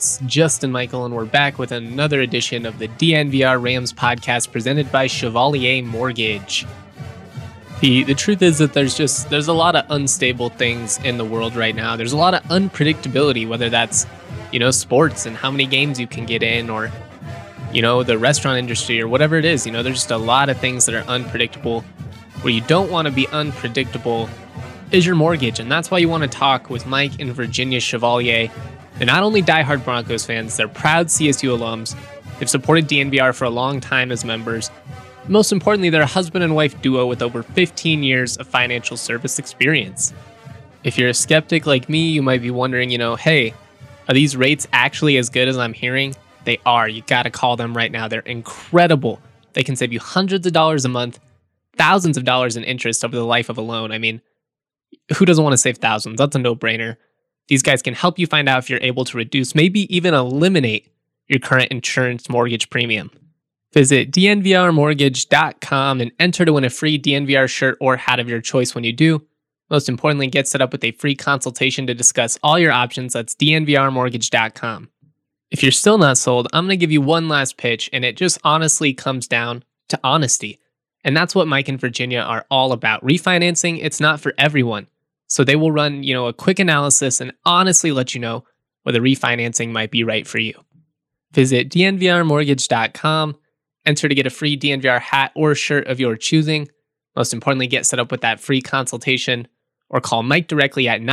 It's Justin Michael, and we're back with another edition of the DNVR Rams podcast presented by Chevalier Mortgage. The truth is that there's a lot of unstable things in the world right now. There's a lot of unpredictability, whether that's, sports and how many games you can get in, or, the restaurant industry or whatever it is. There's just a lot of things that are unpredictable. Where you don't want to be unpredictable is your mortgage, and that's why you want to talk with Mike and Virginia Chevalier. They're not only diehard Broncos fans, they're proud CSU alums. They've supported DNVR for a long time as members. Most importantly, they're a husband and wife duo with over 15 years of financial service experience. If you're a skeptic like me, you might be wondering, hey, are these rates actually as good as I'm hearing? They are. You got to call them right now. They're incredible. They can save you hundreds of dollars a month, thousands of dollars in interest over the life of a loan. I mean, who doesn't want to save thousands? That's a no-brainer. These guys can help you find out if you're able to reduce, maybe even eliminate your current insurance mortgage premium. Visit dnvrmortgage.com and enter to win a free DNVR shirt or hat of your choice when you do. Most importantly, get set up with a free consultation to discuss all your options. That's dnvrmortgage.com. If you're still not sold, I'm going to give you one last pitch, and it just honestly comes down to honesty. And that's what Mike and Virginia are all about. Refinancing, it's not for everyone. So they will run, a quick analysis and honestly let you know whether refinancing might be right for you. Visit dnvrmortgage.com, enter to get a free DNVR hat or shirt of your choosing. Most importantly, get set up with that free consultation or call Mike directly at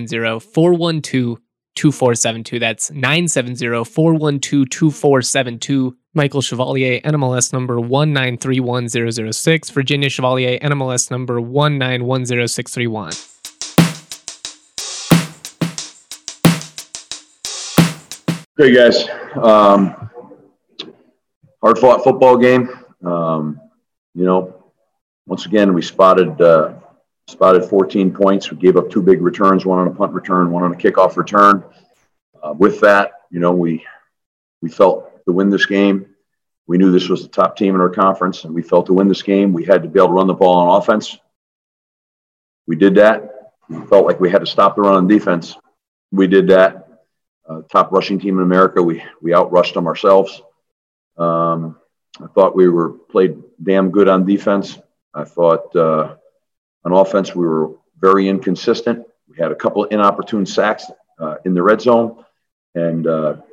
970-412-2472. That's 970-412-2472. Michael Chevalier, NMLS number 1931006. Virginia Chevalier, NMLS number 1910631. Hey guys, hard-fought football game. Once again we spotted 14 points. We gave up two big returns, one on a punt return, one on a kickoff return. With that, we felt to win this game. We knew this was the top team in our conference, and we felt to win this game, we had to be able to run the ball on offense. We did that. We felt like we had to stop the run on defense. We did that. Top rushing team in America. We outrushed them ourselves. I thought we played damn good on defense. I thought on offense we were very inconsistent. We had a couple of inopportune sacks in the red zone, and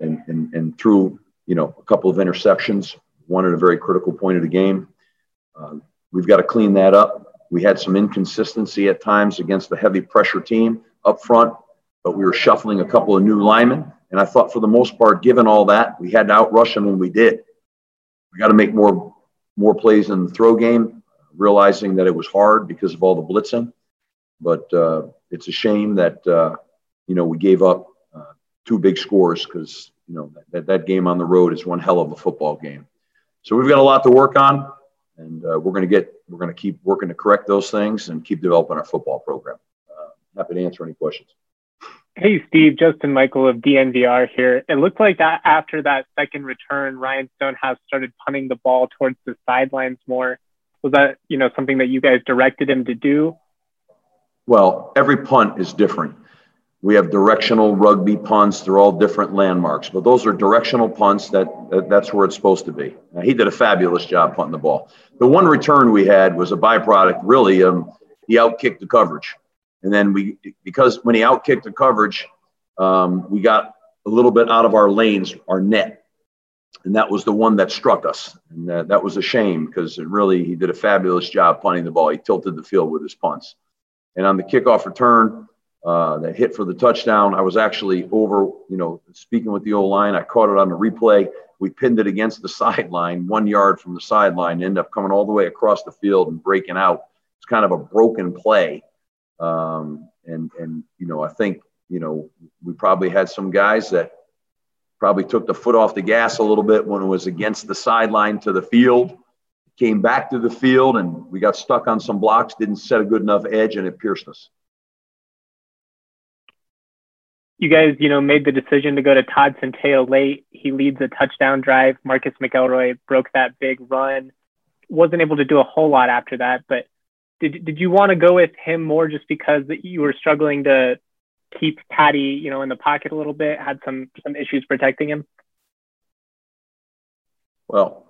threw a couple of interceptions. One at a very critical point of the game. We've got to clean that up. We had some inconsistency at times against the heavy pressure team up front, but we were shuffling a couple of new linemen. And I thought for the most part, given all that, we had to outrush them, and we did. We got to make more plays in the throw game, realizing that it was hard because of all the blitzing. But it's a shame that, we gave up two big scores because, that game on the road is one hell of a football game. So we've got a lot to work on, and we're going to keep working to correct those things and keep developing our football program. Happy to answer any questions. Hey, Steve, Justin Michael of DNVR here. It looked like that after that second return, Ryan Stonehouse started punting the ball towards the sidelines more. Was that, something that you guys directed him to do? Well, every punt is different. We have directional rugby punts. They're all different landmarks, but those are directional punts. That's where it's supposed to be. Now, he did a fabulous job punting the ball. The one return we had was a byproduct, really. He outkicked the coverage. And then because when he outkicked the coverage, we got a little bit out of our lanes, our net. And that was the one that struck us. And that was a shame because he did a fabulous job punting the ball. He tilted the field with his punts. And on the kickoff return, that hit for the touchdown, I was actually over, speaking with the O-line. I caught it on the replay. We pinned it against the sideline, 1 yard from the sideline, ended up coming all the way across the field and breaking out. It's kind of a broken play. I think, we probably had some guys that probably took the foot off the gas a little bit when it was against the sideline to the field, came back to the field, and we got stuck on some blocks, didn't set a good enough edge, and it pierced us. You guys, made the decision to go to Todd Centeio late. He leads a touchdown drive. Marcus McElroy broke that big run. Wasn't able to do a whole lot after that, but did you want to go with him more just because you were struggling to keep Patty, in the pocket a little bit, had some issues protecting him? Well,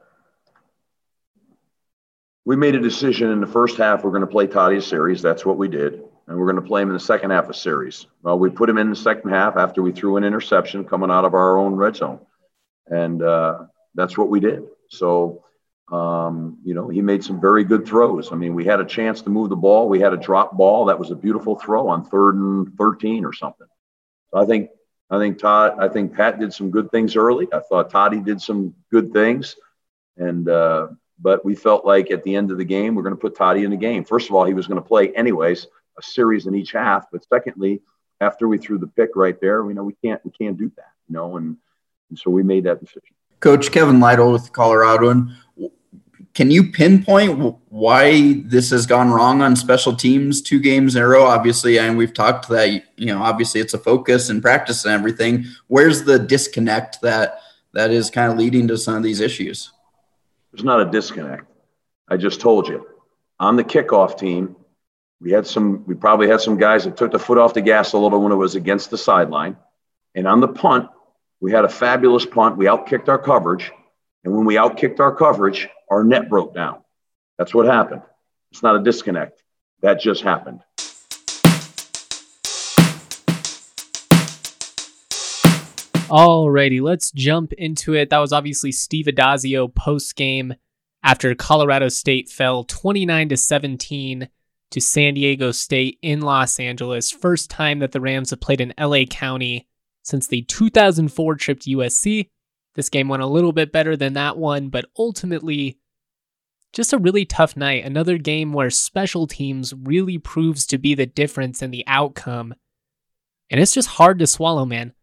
we made a decision in the first half, we're going to play Toddy a series. That's what we did. And we're going to play him in the second half of series. Well, we put him in the second half after we threw an interception coming out of our own red zone. And that's what we did. So, he made some very good throws. I mean, we had a chance to move the ball. We had a drop ball. That was a beautiful throw on 3rd and 13 or something. So I think Pat did some good things early. I thought Toddy did some good things. And, but we felt like at the end of the game, we're going to put Toddy in the game. First of all, he was going to play anyways, a series in each half. But secondly, after we threw the pick right there, we can't do that, and so we made that decision. Coach Kevin Lytle with Colorado. Can you pinpoint why this has gone wrong on special teams 2 games in a row? Obviously, and we've talked that, obviously it's a focus and practice and everything. Where's the disconnect that is kind of leading to some of these issues? There's not a disconnect. I just told you. On the kickoff team, we probably had some guys that took the foot off the gas a little when it was against the sideline. And on the punt, we had a fabulous punt. We outkicked our coverage. And when we outkicked our coverage, our net broke down. That's what happened. It's not a disconnect. That just happened. Alrighty, let's jump into it. That was obviously Steve Addazio post-game after Colorado State fell 29-17 to San Diego State in Los Angeles. First time that the Rams have played in LA County since the 2004 trip to USC. This game went a little bit better than that one, but ultimately just a really tough night. Another game where special teams really proves to be the difference in the outcome. And it's just hard to swallow, man.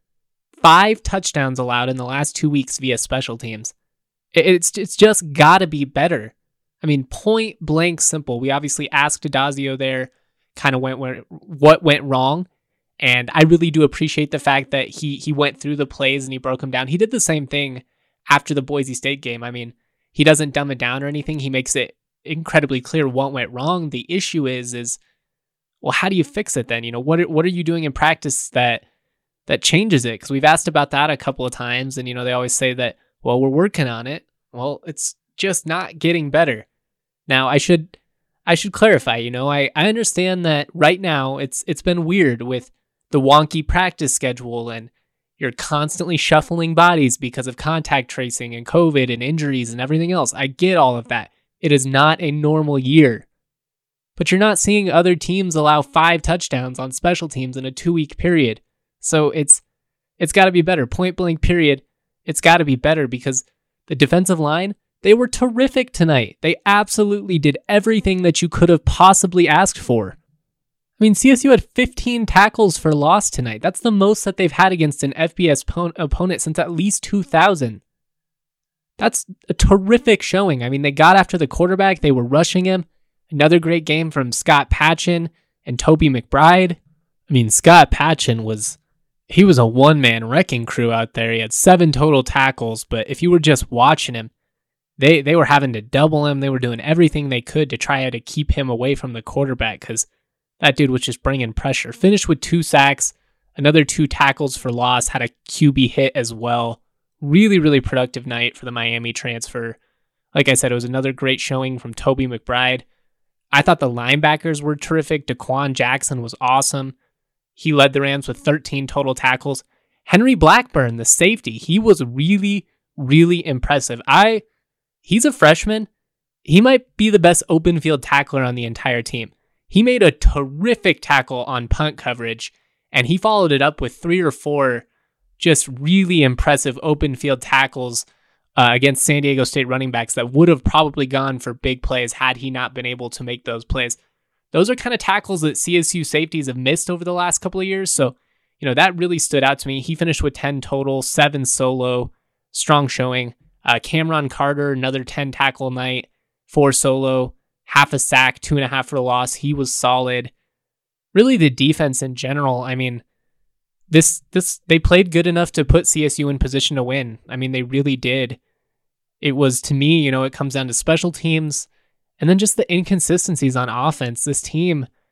5 touchdowns allowed in the last 2 weeks via special teams. It's just got to be better. I mean, point blank simple. We obviously asked Addazio there kind of what went wrong. And I really do appreciate the fact that he went through the plays and he broke them down. He did the same thing after the Boise State game. I mean, he doesn't dumb it down or anything. He makes it incredibly clear what went wrong. The issue is, well, how do you fix it then? What are you doing in practice that changes it? Because we've asked about that a couple of times, and they always say that, well, we're working on it. Well, it's just not getting better. Now, I should clarify. I understand that right now it's been weird with the wonky practice schedule, and you're constantly shuffling bodies because of contact tracing and COVID and injuries and everything else. I get all of that. It is not a normal year. But you're not seeing other teams allow 5 touchdowns on special teams in a 2-week period. So it's got to be better. Point blank period. It's got to be better because the defensive line, they were terrific tonight. They absolutely did everything that you could have possibly asked for. I mean, CSU had 15 tackles for loss tonight. That's the most that they've had against an FBS opponent since at least 2000. That's a terrific showing. I mean, they got after the quarterback. They were rushing him. Another great game from Scott Patchin and Toby McBride. I mean, Scott Patchin was a one-man wrecking crew out there. He had 7 total tackles, but if you were just watching him, they were having to double him. They were doing everything they could to try to keep him away from the quarterback because that dude was just bringing pressure. Finished with 2 sacks, another 2 tackles for loss, had a QB hit as well. Really, really productive night for the Miami transfer. Like I said, it was another great showing from Toby McBride. I thought the linebackers were terrific. Daquan Jackson was awesome. He led the Rams with 13 total tackles. Henry Blackburn, the safety, he was really, really impressive. He's a freshman. He might be the best open field tackler on the entire team. He made a terrific tackle on punt coverage, and he followed it up with 3 or 4 just really impressive open field tackles against San Diego State running backs that would have probably gone for big plays had he not been able to make those plays. Those are kind of tackles that CSU safeties have missed over the last couple of years, so that really stood out to me. He finished with 10 total, 7 solo, strong showing. Cameron Carter, another 10 tackle night, 4 solo, half a sack, 2.5 for a loss. He was solid. Really, the defense in general, I mean, they played good enough to put CSU in position to win. I mean, they really did. It was, to me, it comes down to special teams and then just the inconsistencies on offense. This team,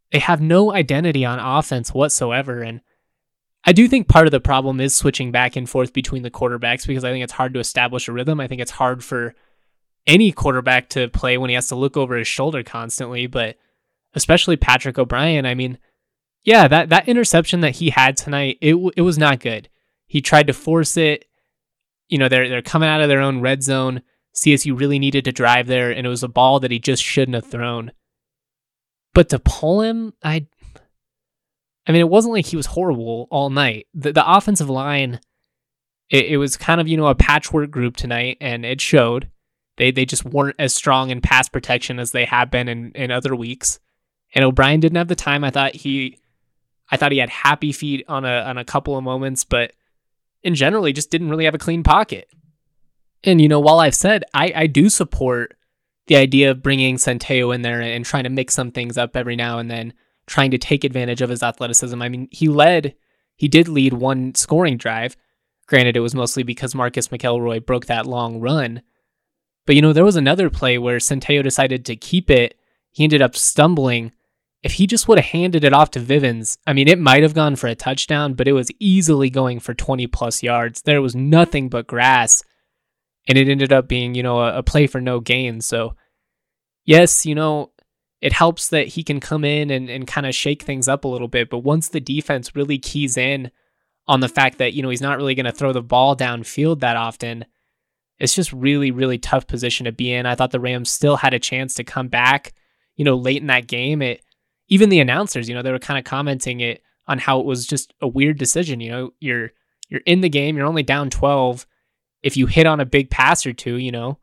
they have no identity on offense whatsoever. And I do think part of the problem is switching back and forth between the quarterbacks, because I think it's hard to establish a rhythm. I think it's hard for any quarterback to play when he has to look over his shoulder constantly, but especially Patrick O'Brien. I mean, yeah, that interception that he had tonight, it was not good. He tried to force it. You know, they're coming out of their own red zone. CSU really needed to drive there, and it was a ball that he just shouldn't have thrown. But to pull him, I mean, it wasn't like he was horrible all night. The offensive line, it was kind of, a patchwork group tonight, and it showed. They just weren't as strong in pass protection as they have been in other weeks. And O'Brien didn't have the time. I thought he had happy feet on a couple of moments, but in general, he just didn't really have a clean pocket. And, while I've said I do support the idea of bringing Centeio in there and trying to mix some things up every now and then, trying to take advantage of his athleticism. I mean, he did lead one scoring drive. Granted, it was mostly because Marcus McElroy broke that long run. But, there was another play where Centeio decided to keep it. He ended up stumbling. If he just would have handed it off to Vivens, I mean, it might have gone for a touchdown, but it was easily going for 20 plus yards. There was nothing but grass, and it ended up being, a play for no gain. So, yes, it helps that he can come in and kind of shake things up a little bit. But once the defense really keys in on the fact that, he's not really going to throw the ball downfield that often, it's just really, really tough position to be in. I thought the Rams still had a chance to come back, late in that game. Even the announcers, they were kind of commenting it on how it was just a weird decision. You're in the game, you're only down 12. If you hit on a big pass or two,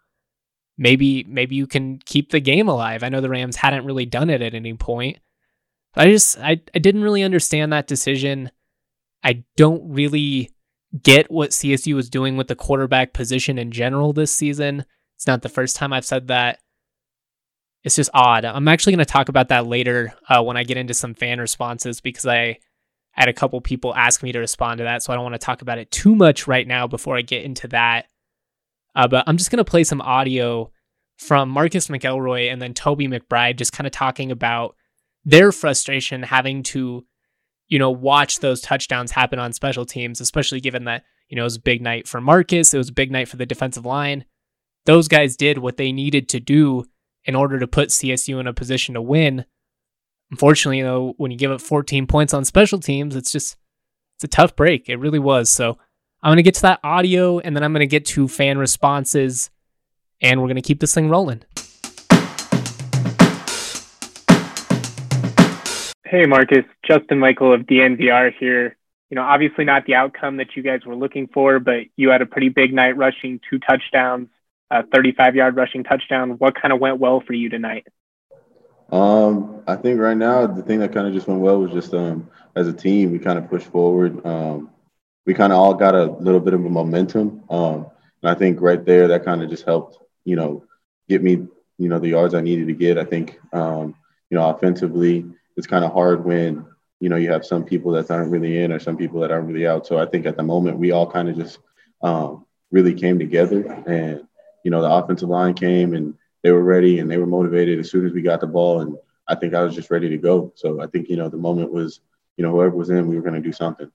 maybe you can keep the game alive. I know the Rams hadn't really done it at any point. But I didn't really understand that decision. I don't really get what CSU was doing with the quarterback position in general this season. It's not the first time I've said that. It's just odd. I'm actually going to talk about that later when I get into some fan responses, because I had a couple people ask me to respond to that, so I don't want to talk about it too much right now before I get into that. But I'm just going to play some audio from Marcus McElroy and then Toby McBride, just kind of talking about their frustration having to, watch those touchdowns happen on special teams, especially given that, it was a big night for Marcus. It was a big night for the defensive line. Those guys did what they needed to do in order to put CSU in a position to win. Unfortunately, though, when you give up 14 points on special teams, it's a tough break. It really was. So I'm going to get to that audio, and then I'm going to get to fan responses, and we're going to keep this thing rolling. Hey, Marcus, Justin Michael of DNVR here. Obviously not the outcome that you guys were looking for, but you had a pretty big night rushing 2 touchdowns, a 35-yard rushing touchdown. What kind of went well for you tonight? I think right now the thing that kind of just went well was just as a team, we kind of pushed forward. We kind of all got a little bit of a momentum. And I think right there that kind of just helped, get me, the yards I needed to get. I think, offensively, it's kind of hard when, you have some people that aren't really in or some people that aren't really out. So I think at the moment we all kind of just really came together, and, the offensive line came and they were ready and they were motivated as soon as we got the ball. And I think I was just ready to go. So I think, the moment was, whoever was in, we were going to do something.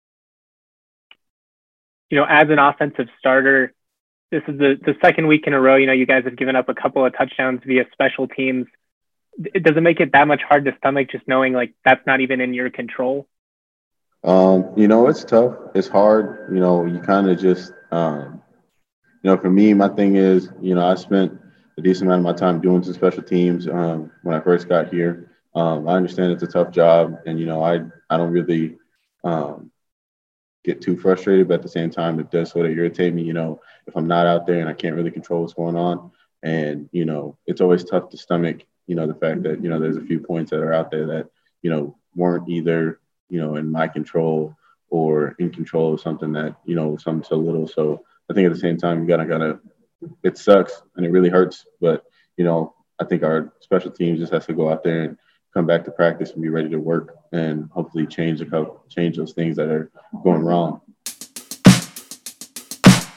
As an offensive starter, this is the second week in a row, you guys have given up a couple of touchdowns via special teams. Does it make it that much hard to stomach, just knowing like that's not even in your control? It's tough. It's hard. You kind of just, for me, my thing is, I spent a decent amount of my time doing some special teams when I first got here. I understand it's a tough job, and, I don't really get too frustrated, but at the same time, it does sort of irritate me, if I'm not out there and I can't really control what's going on. And, it's always tough to stomach, the fact that, there's a few points that are out there that, weren't either, in my control or in control of something that, something so little. So I think at the same time, you gotta, it sucks and it really hurts. But, I think our special teams just has to go out there and come back to practice and be ready to work and hopefully change those things that are going wrong.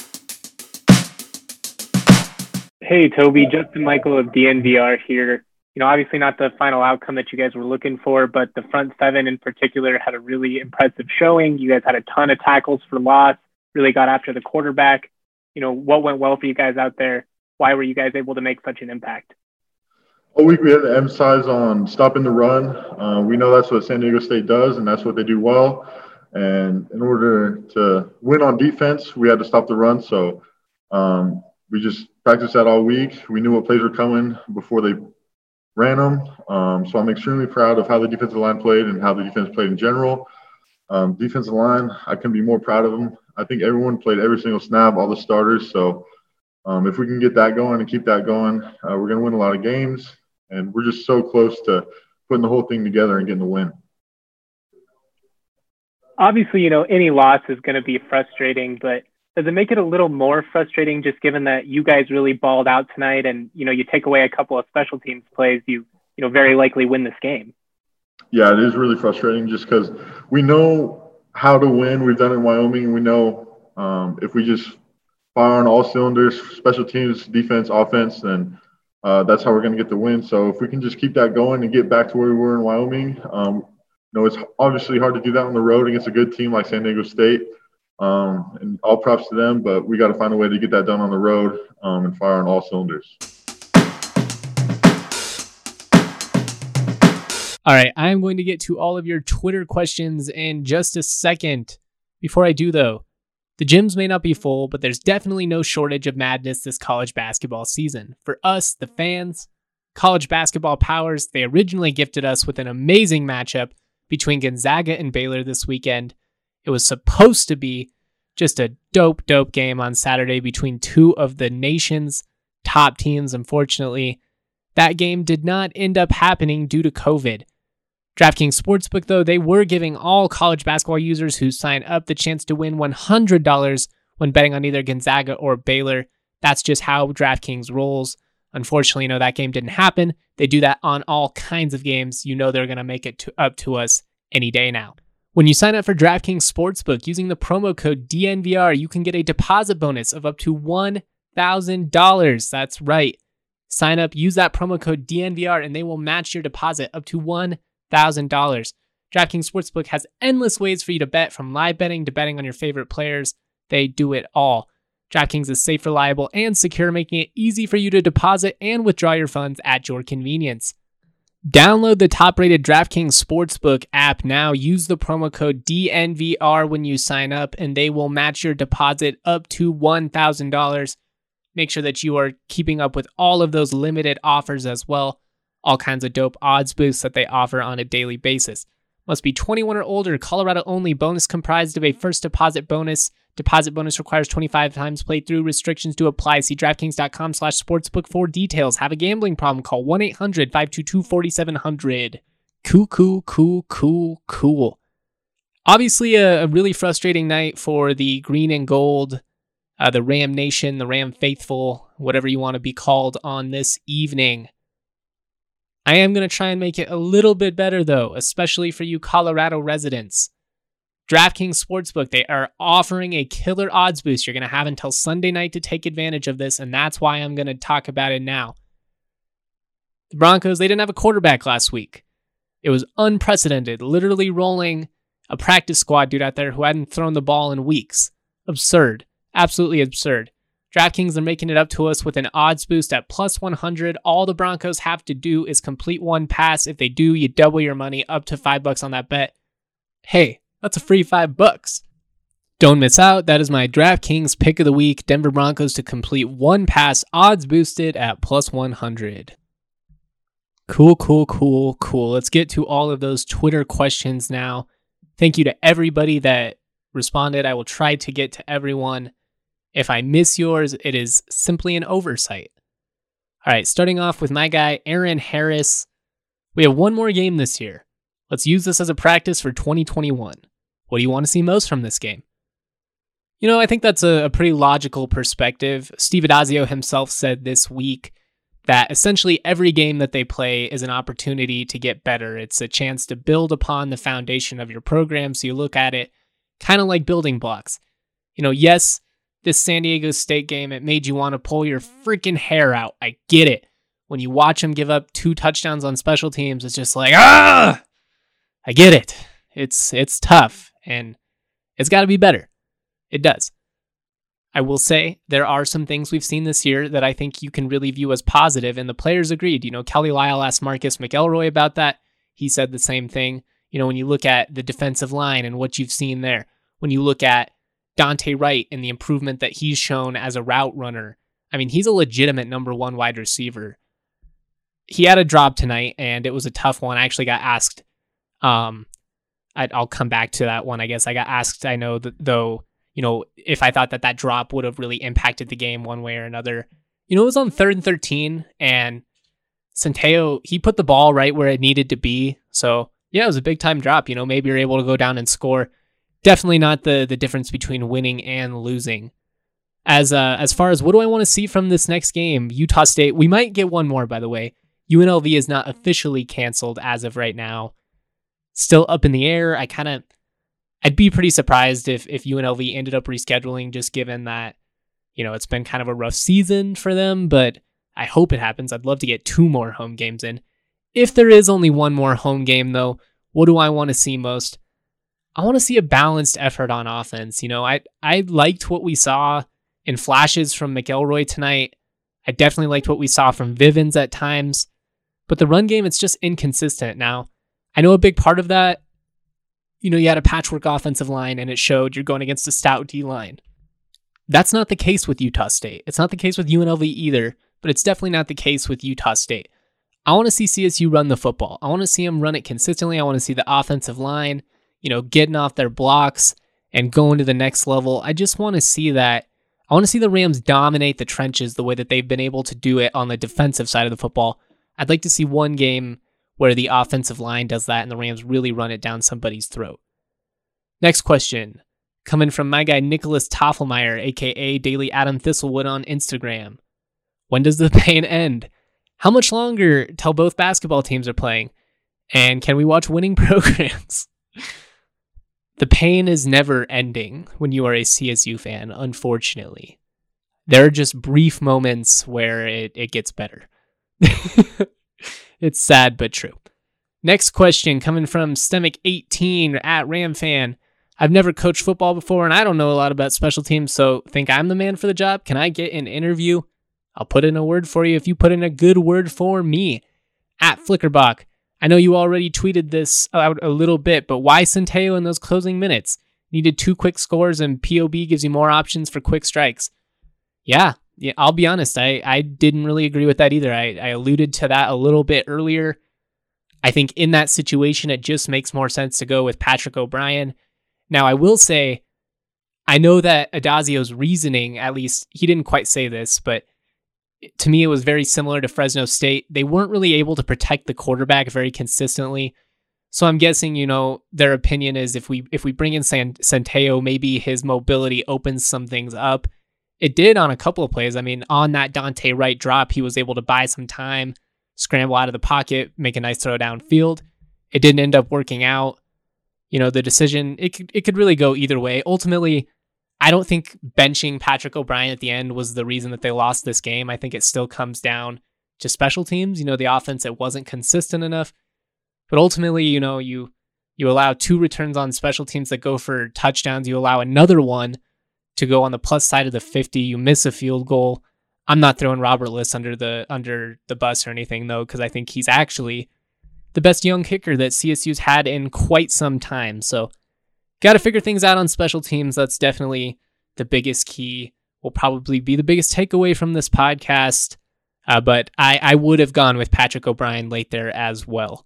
Hey, Toby, Justin Michael of DNVR here. obviously not the final outcome that you guys were looking for, but the front seven in particular had a really impressive showing. You guys had a ton of tackles for loss, really got after the quarterback. What went well for you guys out there? Why were you guys able to make such an impact? All week we had to emphasize on stopping the run. We know that's what San Diego State does, and that's what they do well. And in order to win on defense, we had to stop the run. So we just practiced that all week. We knew what plays were coming before they ran them. So I'm extremely proud of how the defensive line played and how the defense played in general. Defensive line, I couldn't be more proud of them. I think everyone played every single snap, all the starters. So if we can get that going and keep that going, we're going to win a lot of games. And we're just so close to putting the whole thing together and getting the win. Obviously, any loss is going to be frustrating, but does it make it a little more frustrating just given that you guys really balled out tonight and, you take away a couple of special teams plays, you very likely win this game? Yeah, it is really frustrating just because we know how to win. We've done it in Wyoming. And we know if we just fire on all cylinders, special teams, defense, offense, then that's how we're going to get the win. So if we can just keep that going and get back to where we were in Wyoming, it's obviously hard to do that on the road against a good team like San Diego State. And all props to them, but we got to find a way to get that done on the road and fire on all cylinders. All right, I'm going to get to all of your Twitter questions in just a second. Before I do, though, the gyms may not be full, but there's definitely no shortage of madness this college basketball season. For us, the fans, college basketball powers, they originally gifted us with an amazing matchup between Gonzaga and Baylor this weekend. It was supposed to be just a dope game on Saturday between two of the nation's top teams. Unfortunately, that game did not end up happening due to COVID. DraftKings Sportsbook, though, they were giving all college basketball users who sign up the chance to win $100 when betting on either Gonzaga or Baylor. That's just how DraftKings rolls. Unfortunately, that game didn't happen. They do that on all kinds of games. They're going to make it up to us any day now. When you sign up for DraftKings Sportsbook using the promo code DNVR, you can get a deposit bonus of up to $1,000. That's right. Sign up, use that promo code DNVR, and they will match your deposit up to $1,000. DraftKings Sportsbook has endless ways for you to bet, from live betting to betting on your favorite players. They do it all. DraftKings is safe, reliable, and secure, making it easy for you to deposit and withdraw your funds at your convenience. Download the top-rated DraftKings Sportsbook app now. Use the promo code DNVR when you sign up, and they will match your deposit up to $1,000. Make sure that you are keeping up with all of those limited offers as well. All kinds of dope odds boosts that they offer on a daily basis. Must be 21 or older, Colorado only. Bonus comprised of a first deposit bonus. Deposit bonus requires 25 times playthrough. Restrictions do apply. See DraftKings.com/sportsbook for details. Have a gambling problem? Call 1-800-522-4700. Cool. Obviously, a really frustrating night for the green and gold, the Ram Nation, the Ram Faithful, whatever you want to be called on this evening. I am going to try and make it a little bit better, though, especially for you Colorado residents. DraftKings Sportsbook, they are offering a killer odds boost. You're going to have until Sunday night to take advantage of this, and that's why I'm going to talk about it now. The Broncos, they didn't have a quarterback last week. It was unprecedented, literally rolling a practice squad dude out there who hadn't thrown the ball in weeks. Absurd. Absolutely absurd. DraftKings are making it up to us with an odds boost at plus 100. All the Broncos have to do is complete one pass. If they do, you double your money up to $5 on that bet. Hey, that's a free $5. Don't miss out. That is my DraftKings pick of the week. Denver Broncos to complete one pass, odds boosted at plus 100. Cool. Let's get to all of those Twitter questions now. Thank you to everybody that responded. I will try to get to everyone. If I miss yours, it is simply an oversight. All right, starting off with my guy, Aaron Harris. We have one more game this year. Let's use this as a practice for 2021. What do you want to see most from this game? I think that's a pretty logical perspective. Steve Addazio himself said this week that essentially every game that they play is an opportunity to get better. It's a chance to build upon the foundation of your program. So you look at it kind of like building blocks. Yes, this San Diego State game, it made you want to pull your freaking hair out. I get it. when you watch them give up 2 touchdowns on special teams, it's just like, I get it. It's tough, and it's got to be better. It does. I will say there are some things we've seen this year that I think you can really view as positive, and the players agreed. Kelly Lyle asked Marcus McElroy about that. He said the same thing. When you look at the defensive line and what you've seen there, when you look at Dante Wright and the improvement that he's shown as a route runner, I mean, he's a legitimate number 1 wide receiver. He had a drop tonight, and it was a tough one. I actually got asked, I'll come back to that one, I guess. I got asked, I know, though, if I thought that drop would have really impacted the game one way or another. It was on 3rd and 13, and Centeio, he put the ball right where it needed to be. So, yeah, it was a big-time drop. Maybe you're able to go down and score. Definitely not the difference between winning and losing. As far as what do I want to see from this next game, Utah State, we might get one more, by the way. UNLV is not officially canceled as of right now. Still up in the air. I'd be pretty surprised if UNLV ended up rescheduling, just given that, it's been kind of a rough season for them, but I hope it happens. I'd love to get 2 more home games in. If there is only 1 more home game, though, what do I want to see most? I want to see a balanced effort on offense. I liked what we saw in flashes from McElroy tonight. I definitely liked what we saw from Vivens at times, but the run game, it's just inconsistent. Now, I know a big part of that, you had a patchwork offensive line and it showed you're going against a stout D line. That's not the case with Utah State. It's not the case with UNLV either, but it's definitely not the case with Utah State. I want to see CSU run the football. I want to see them run it consistently. I want to see the offensive line, getting off their blocks and going to the next level. I just want to see that. I want to see the Rams dominate the trenches the way that they've been able to do it on the defensive side of the football. I'd like to see one game where the offensive line does that and the Rams really run it down somebody's throat. Next question, coming from my guy Nicholas Toffelmeyer, aka Daily Adam Thistlewood on Instagram. When does the pain end? How much longer till both basketball teams are playing? And can we watch winning programs? The pain is never ending when you are a CSU fan, unfortunately. There are just brief moments where it gets better. It's sad but true. Next question coming from Stemic18 at RamFan. I've never coached football before and I don't know a lot about special teams, so think I'm the man for the job? Can I get an interview? I'll put in a word for you if you put in a good word for me. At Flickerbach. I know you already tweeted this out a little bit, but why Centeio in those closing minutes? Needed 2 quick scores and POB gives you more options for quick strikes. Yeah, I'll be honest. I didn't really agree with that either. I alluded to that a little bit earlier. I think in that situation, it just makes more sense to go with Patrick O'Brien. Now, I will say, I know that Adazio's reasoning, at least he didn't quite say this, but to me, it was very similar to Fresno State. They weren't really able to protect the quarterback very consistently. So I'm guessing, their opinion is if we bring in Centeio, maybe his mobility opens some things up. It did on a couple of plays. I mean, on that Dante Wright drop, he was able to buy some time, scramble out of the pocket, make a nice throw downfield. It didn't end up working out. The decision, it could really go either way. Ultimately, I don't think benching Patrick O'Brien at the end was the reason that they lost this game. I think it still comes down to special teams. The offense, it wasn't consistent enough. But ultimately, you allow 2 returns on special teams that go for touchdowns. You allow another one to go on the plus side of the 50. You miss a field goal. I'm not throwing Robert Liss under the bus or anything, though, because I think he's actually the best young kicker that CSU's had in quite some time. So got to figure things out on special teams. That's definitely the biggest key. Will probably be the biggest takeaway from this podcast. But I would have gone with Patrick O'Brien late there as well.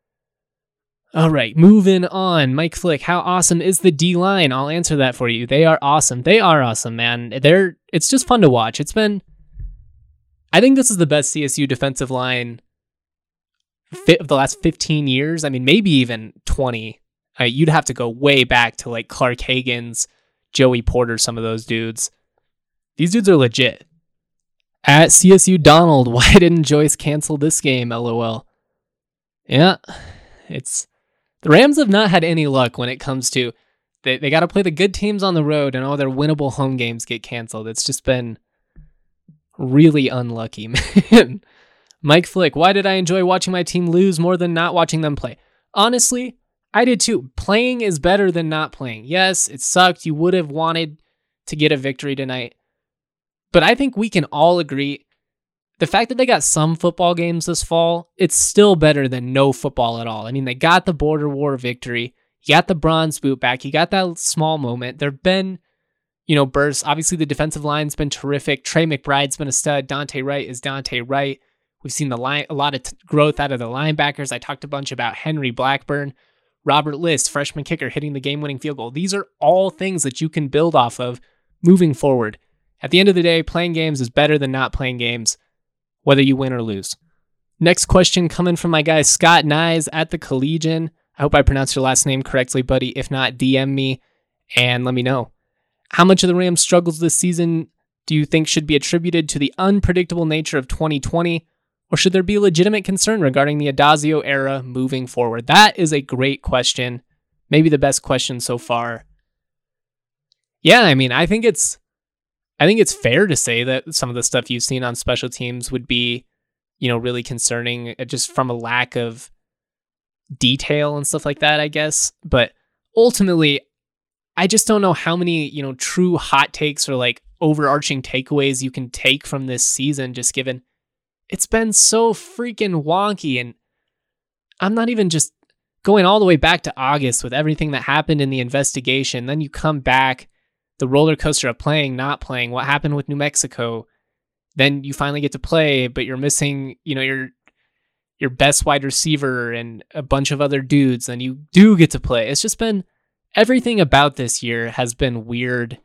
All right, moving on. Mike Flick, how awesome is the D-line? I'll answer that for you. They are awesome. They are awesome, man. It's just fun to watch. I think this is the best CSU defensive line of the last 15 years. I mean, maybe even 20. You'd have to go way back to like Clark Hagan's, Joey Porter, some of those dudes. These dudes are legit. At CSU Donald, why didn't Joyce cancel this game? LOL. Yeah, the Rams have not had any luck when it comes to they got to play the good teams on the road and all their winnable home games get canceled. It's just been really unlucky, man. Mike Flick, why did I enjoy watching my team lose more than not watching them play? Honestly, I did too. Playing is better than not playing. Yes, it sucked. You would have wanted to get a victory tonight. But I think we can all agree the fact that they got some football games this fall, it's still better than no football at all. I mean, they got the border war victory. You got the bronze boot back. You got that small moment. There have been, bursts. Obviously, the defensive line's been terrific. Trey McBride's been a stud. Dante Wright is Dante Wright. We've seen a lot of growth out of the linebackers. I talked a bunch about Henry Blackburn. Robert List, freshman kicker, hitting the game-winning field goal. These are all things that you can build off of moving forward. At the end of the day, playing games is better than not playing games, whether you win or lose. Next question coming from my guy Scott Nyes at the Collegian. I hope I pronounced your last name correctly, buddy. If not, DM me and let me know. How much of the Rams' struggles this season do you think should be attributed to the unpredictable nature of 2020, or should there be legitimate concern regarding the Addazio era moving forward? That is a great question. Maybe the best question so far. Yeah, I mean, I think it's fair to say that some of the stuff you've seen on special teams would be, really concerning just from a lack of detail and stuff like that, I guess. But ultimately, I just don't know how many, true hot takes or like overarching takeaways you can take from this season, just given it's been so freaking wonky. And I'm not even just going all the way back to August with everything that happened in the investigation. Then you come back, the roller coaster of playing, not playing, what happened with New Mexico. Then you finally get to play, but you're missing, your best wide receiver and a bunch of other dudes, and you do get to play. It's just been, everything about this year has been weird.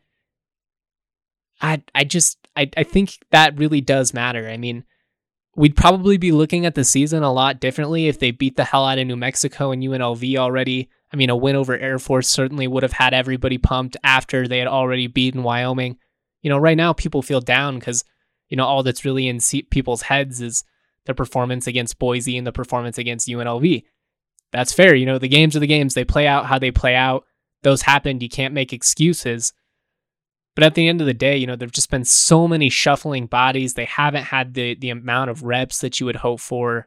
I think that really does matter. I mean, we'd probably be looking at the season a lot differently if they beat the hell out of New Mexico and UNLV already. I mean, a win over Air Force certainly would have had everybody pumped after they had already beaten Wyoming. Right now people feel down because, all that's really in people's heads is the performance against Boise and the performance against UNLV. That's fair. The games are the games. They play out how they play out. Those happened. You can't make excuses. But at the end of the day, there've just been so many shuffling bodies. They haven't had the amount of reps that you would hope for.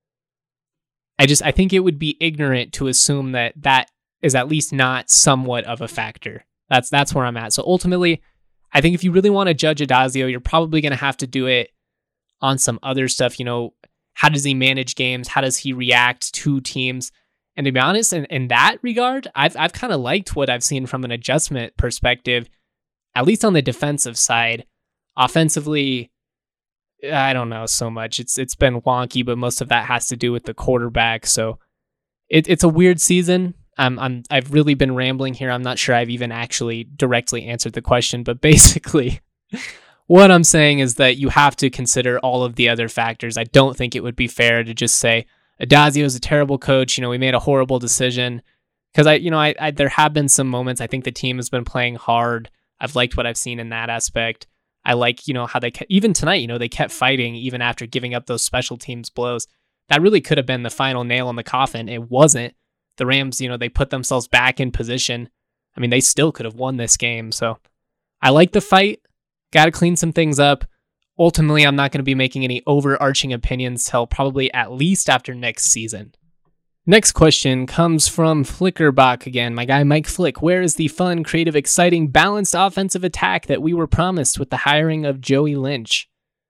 I think it would be ignorant to assume that is at least not somewhat of a factor. That's where I'm at. So ultimately, I think if you really want to judge Addazio, you're probably going to have to do it on some other stuff. How does he manage games? How does he react to teams? And to be honest, in that regard, I've kind of liked what I've seen from an adjustment perspective, at least on the defensive side. Offensively, I don't know so much. It's been wonky, but most of that has to do with the quarterback. So it's a weird season. I've really been rambling here. I'm not sure I've even actually directly answered the question, but basically what I'm saying is that you have to consider all of the other factors. I don't think it would be fair to just say Addazio is a terrible coach. We made a horrible decision, because I there have been some moments. I think the team has been playing hard. I've liked what I've seen in that aspect. I like, how they even tonight, they kept fighting even after giving up those special teams blows. That really could have been the final nail in the coffin. It wasn't. The Rams, they put themselves back in position. I mean, they still could have won this game. So I like the fight. Got to clean some things up. Ultimately, I'm not going to be making any overarching opinions till probably at least after next season. Next question comes from Flickerbach again. My guy Mike Flick. Where is the fun, creative, exciting, balanced offensive attack that we were promised with the hiring of Joey Lynch?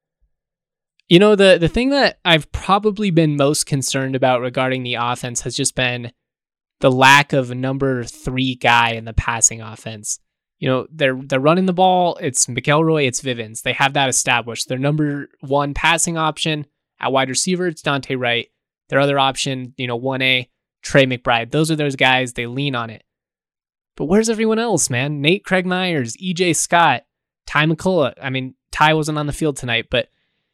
The thing that I've probably been most concerned about regarding the offense has just been the lack of a number 3 guy in the passing offense. They're running the ball. It's McElroy, it's Vivens. They have that established. Their number 1 passing option at wide receiver, it's Dante Wright. Their other option, 1A, Trey McBride. Those are those guys. They lean on it. But where's everyone else, man? Nate Craig Myers, EJ Scott, Ty McCullough. I mean, Ty wasn't on the field tonight, but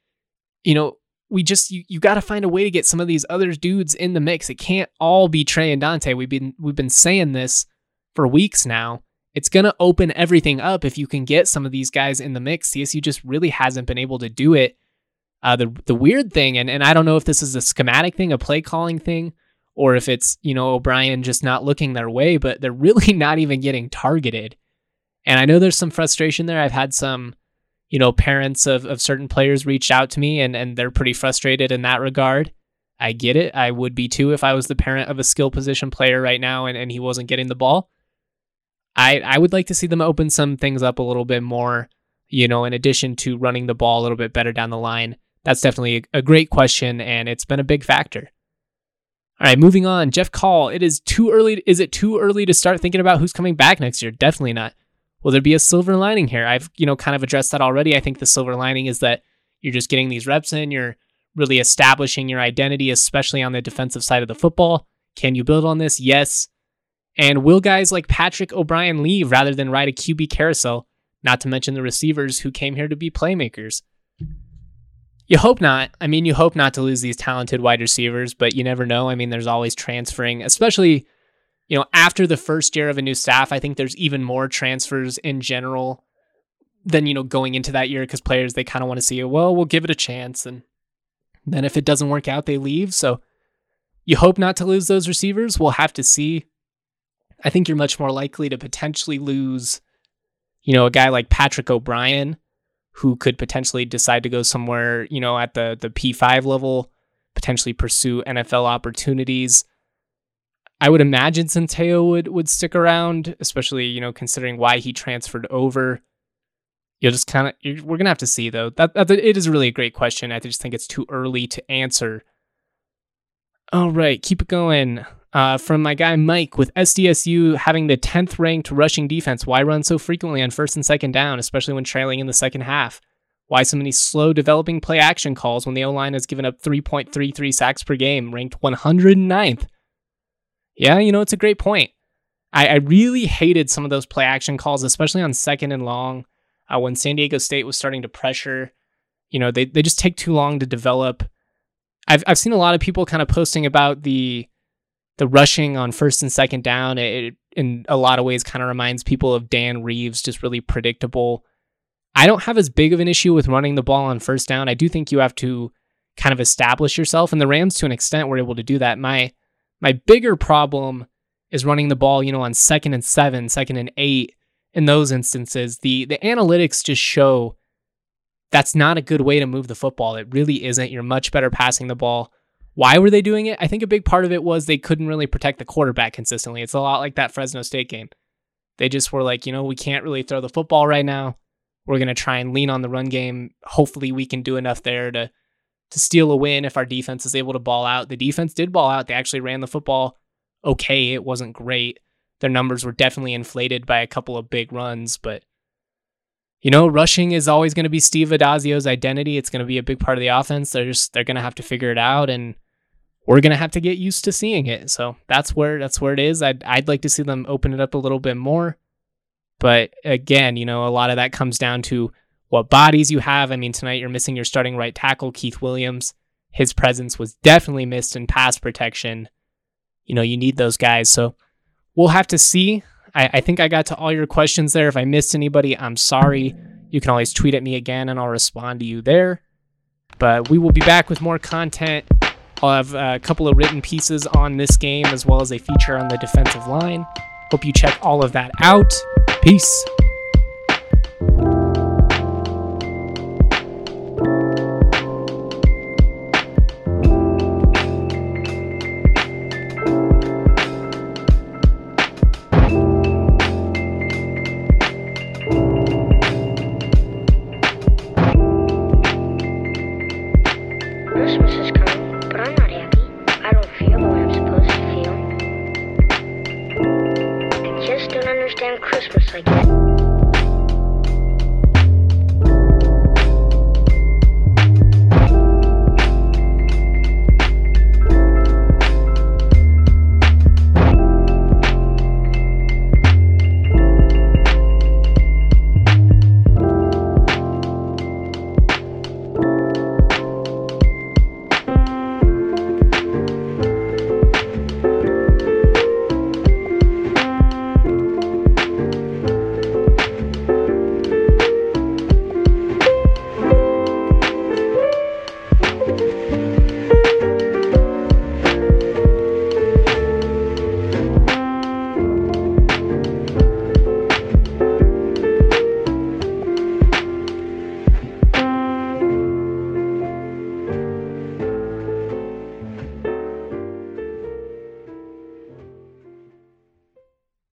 you got to find a way to get some of these other dudes in the mix. It can't all be Trey and Dante. We've been saying this for weeks now. It's going to open everything up if you can get some of these guys in the mix. CSU just really hasn't been able to do it. The weird thing, and I don't know if this is a schematic thing, a play calling thing, or if it's, O'Brien just not looking their way, but they're really not even getting targeted. And I know there's some frustration there. I've had some, parents of certain players reached out to me and they're pretty frustrated in that regard. I get it. I would be too if I was the parent of a skill position player right now and he wasn't getting the ball. I would like to see them open some things up a little bit more, in addition to running the ball a little bit better down the line. That's definitely a great question, and it's been a big factor. All right, moving on. Jeff Call, is it too early to start thinking about who's coming back next year? Definitely not. Will there be a silver lining here? I've, kind of addressed that already. I think the silver lining is that you're just getting these reps in. You're really establishing your identity, especially on the defensive side of the football. Can you build on this? Yes. And will guys like Patrick O'Brien leave rather than ride a QB carousel? Not to mention the receivers who came here to be playmakers. You hope not. You hope not to lose these talented wide receivers, but you never know. There's always transferring, especially, after the first year of a new staff. I think there's even more transfers in general than, going into that year because players, they kind of want to see, we'll give it a chance. And then if it doesn't work out, they leave. So you hope not to lose those receivers. We'll have to see. I think you're much more likely to potentially lose, a guy like Patrick O'Brien, who could potentially decide to go somewhere, at the P5 level, potentially pursue NFL opportunities. I would imagine Centeio would stick around, especially, considering why he transferred over. You'll just we're going to have to see, though. It is really a great question. I just think it's too early to answer. All right, keep it going. From my guy Mike, with SDSU having the 10th ranked rushing defense, why run so frequently on first and second down, especially when trailing in the second half? Why so many slow developing play action calls when the O-line has given up 3.33 sacks per game, ranked 109th? Yeah, it's a great point. I really hated some of those play action calls, especially on second and long, when San Diego State was starting to pressure. They just take too long to develop. I've seen a lot of people kind of posting about the rushing on first and second down. It in a lot of ways kind of reminds people of Dan Reeves, just really predictable. I don't have as big of an issue with running the ball on first down. I do think you have to kind of establish yourself, and the Rams to an extent were able to do that. My bigger problem is running the ball, on 2nd and 7, 2nd and 8. In those instances, the analytics just show that's not a good way to move the football. It really isn't. You're much better passing the ball. Why were they doing it? I think a big part of it was they couldn't really protect the quarterback consistently. It's a lot like that Fresno State game. They just were like, we can't really throw the football right now. We're going to try and lean on the run game. Hopefully we can do enough there to steal a win if our defense is able to ball out. The defense did ball out. They actually ran the football okay. It wasn't great. Their numbers were definitely inflated by a couple of big runs, but rushing is always going to be Steve Adazio's identity. It's going to be a big part of the offense. They're going to have to figure it out, and we're going to have to get used to seeing it. So that's where it is. I'd like to see them open it up a little bit more. But again, a lot of that comes down to what bodies you have. Tonight you're missing your starting right tackle, Keith Williams. His presence was definitely missed in pass protection. You need those guys. So we'll have to see. I think I got to all your questions there. If I missed anybody, I'm sorry. You can always tweet at me again and I'll respond to you there. But we will be back with more content. I'll have a couple of written pieces on this game as well as a feature on the defensive line. Hope you check all of that out. Peace.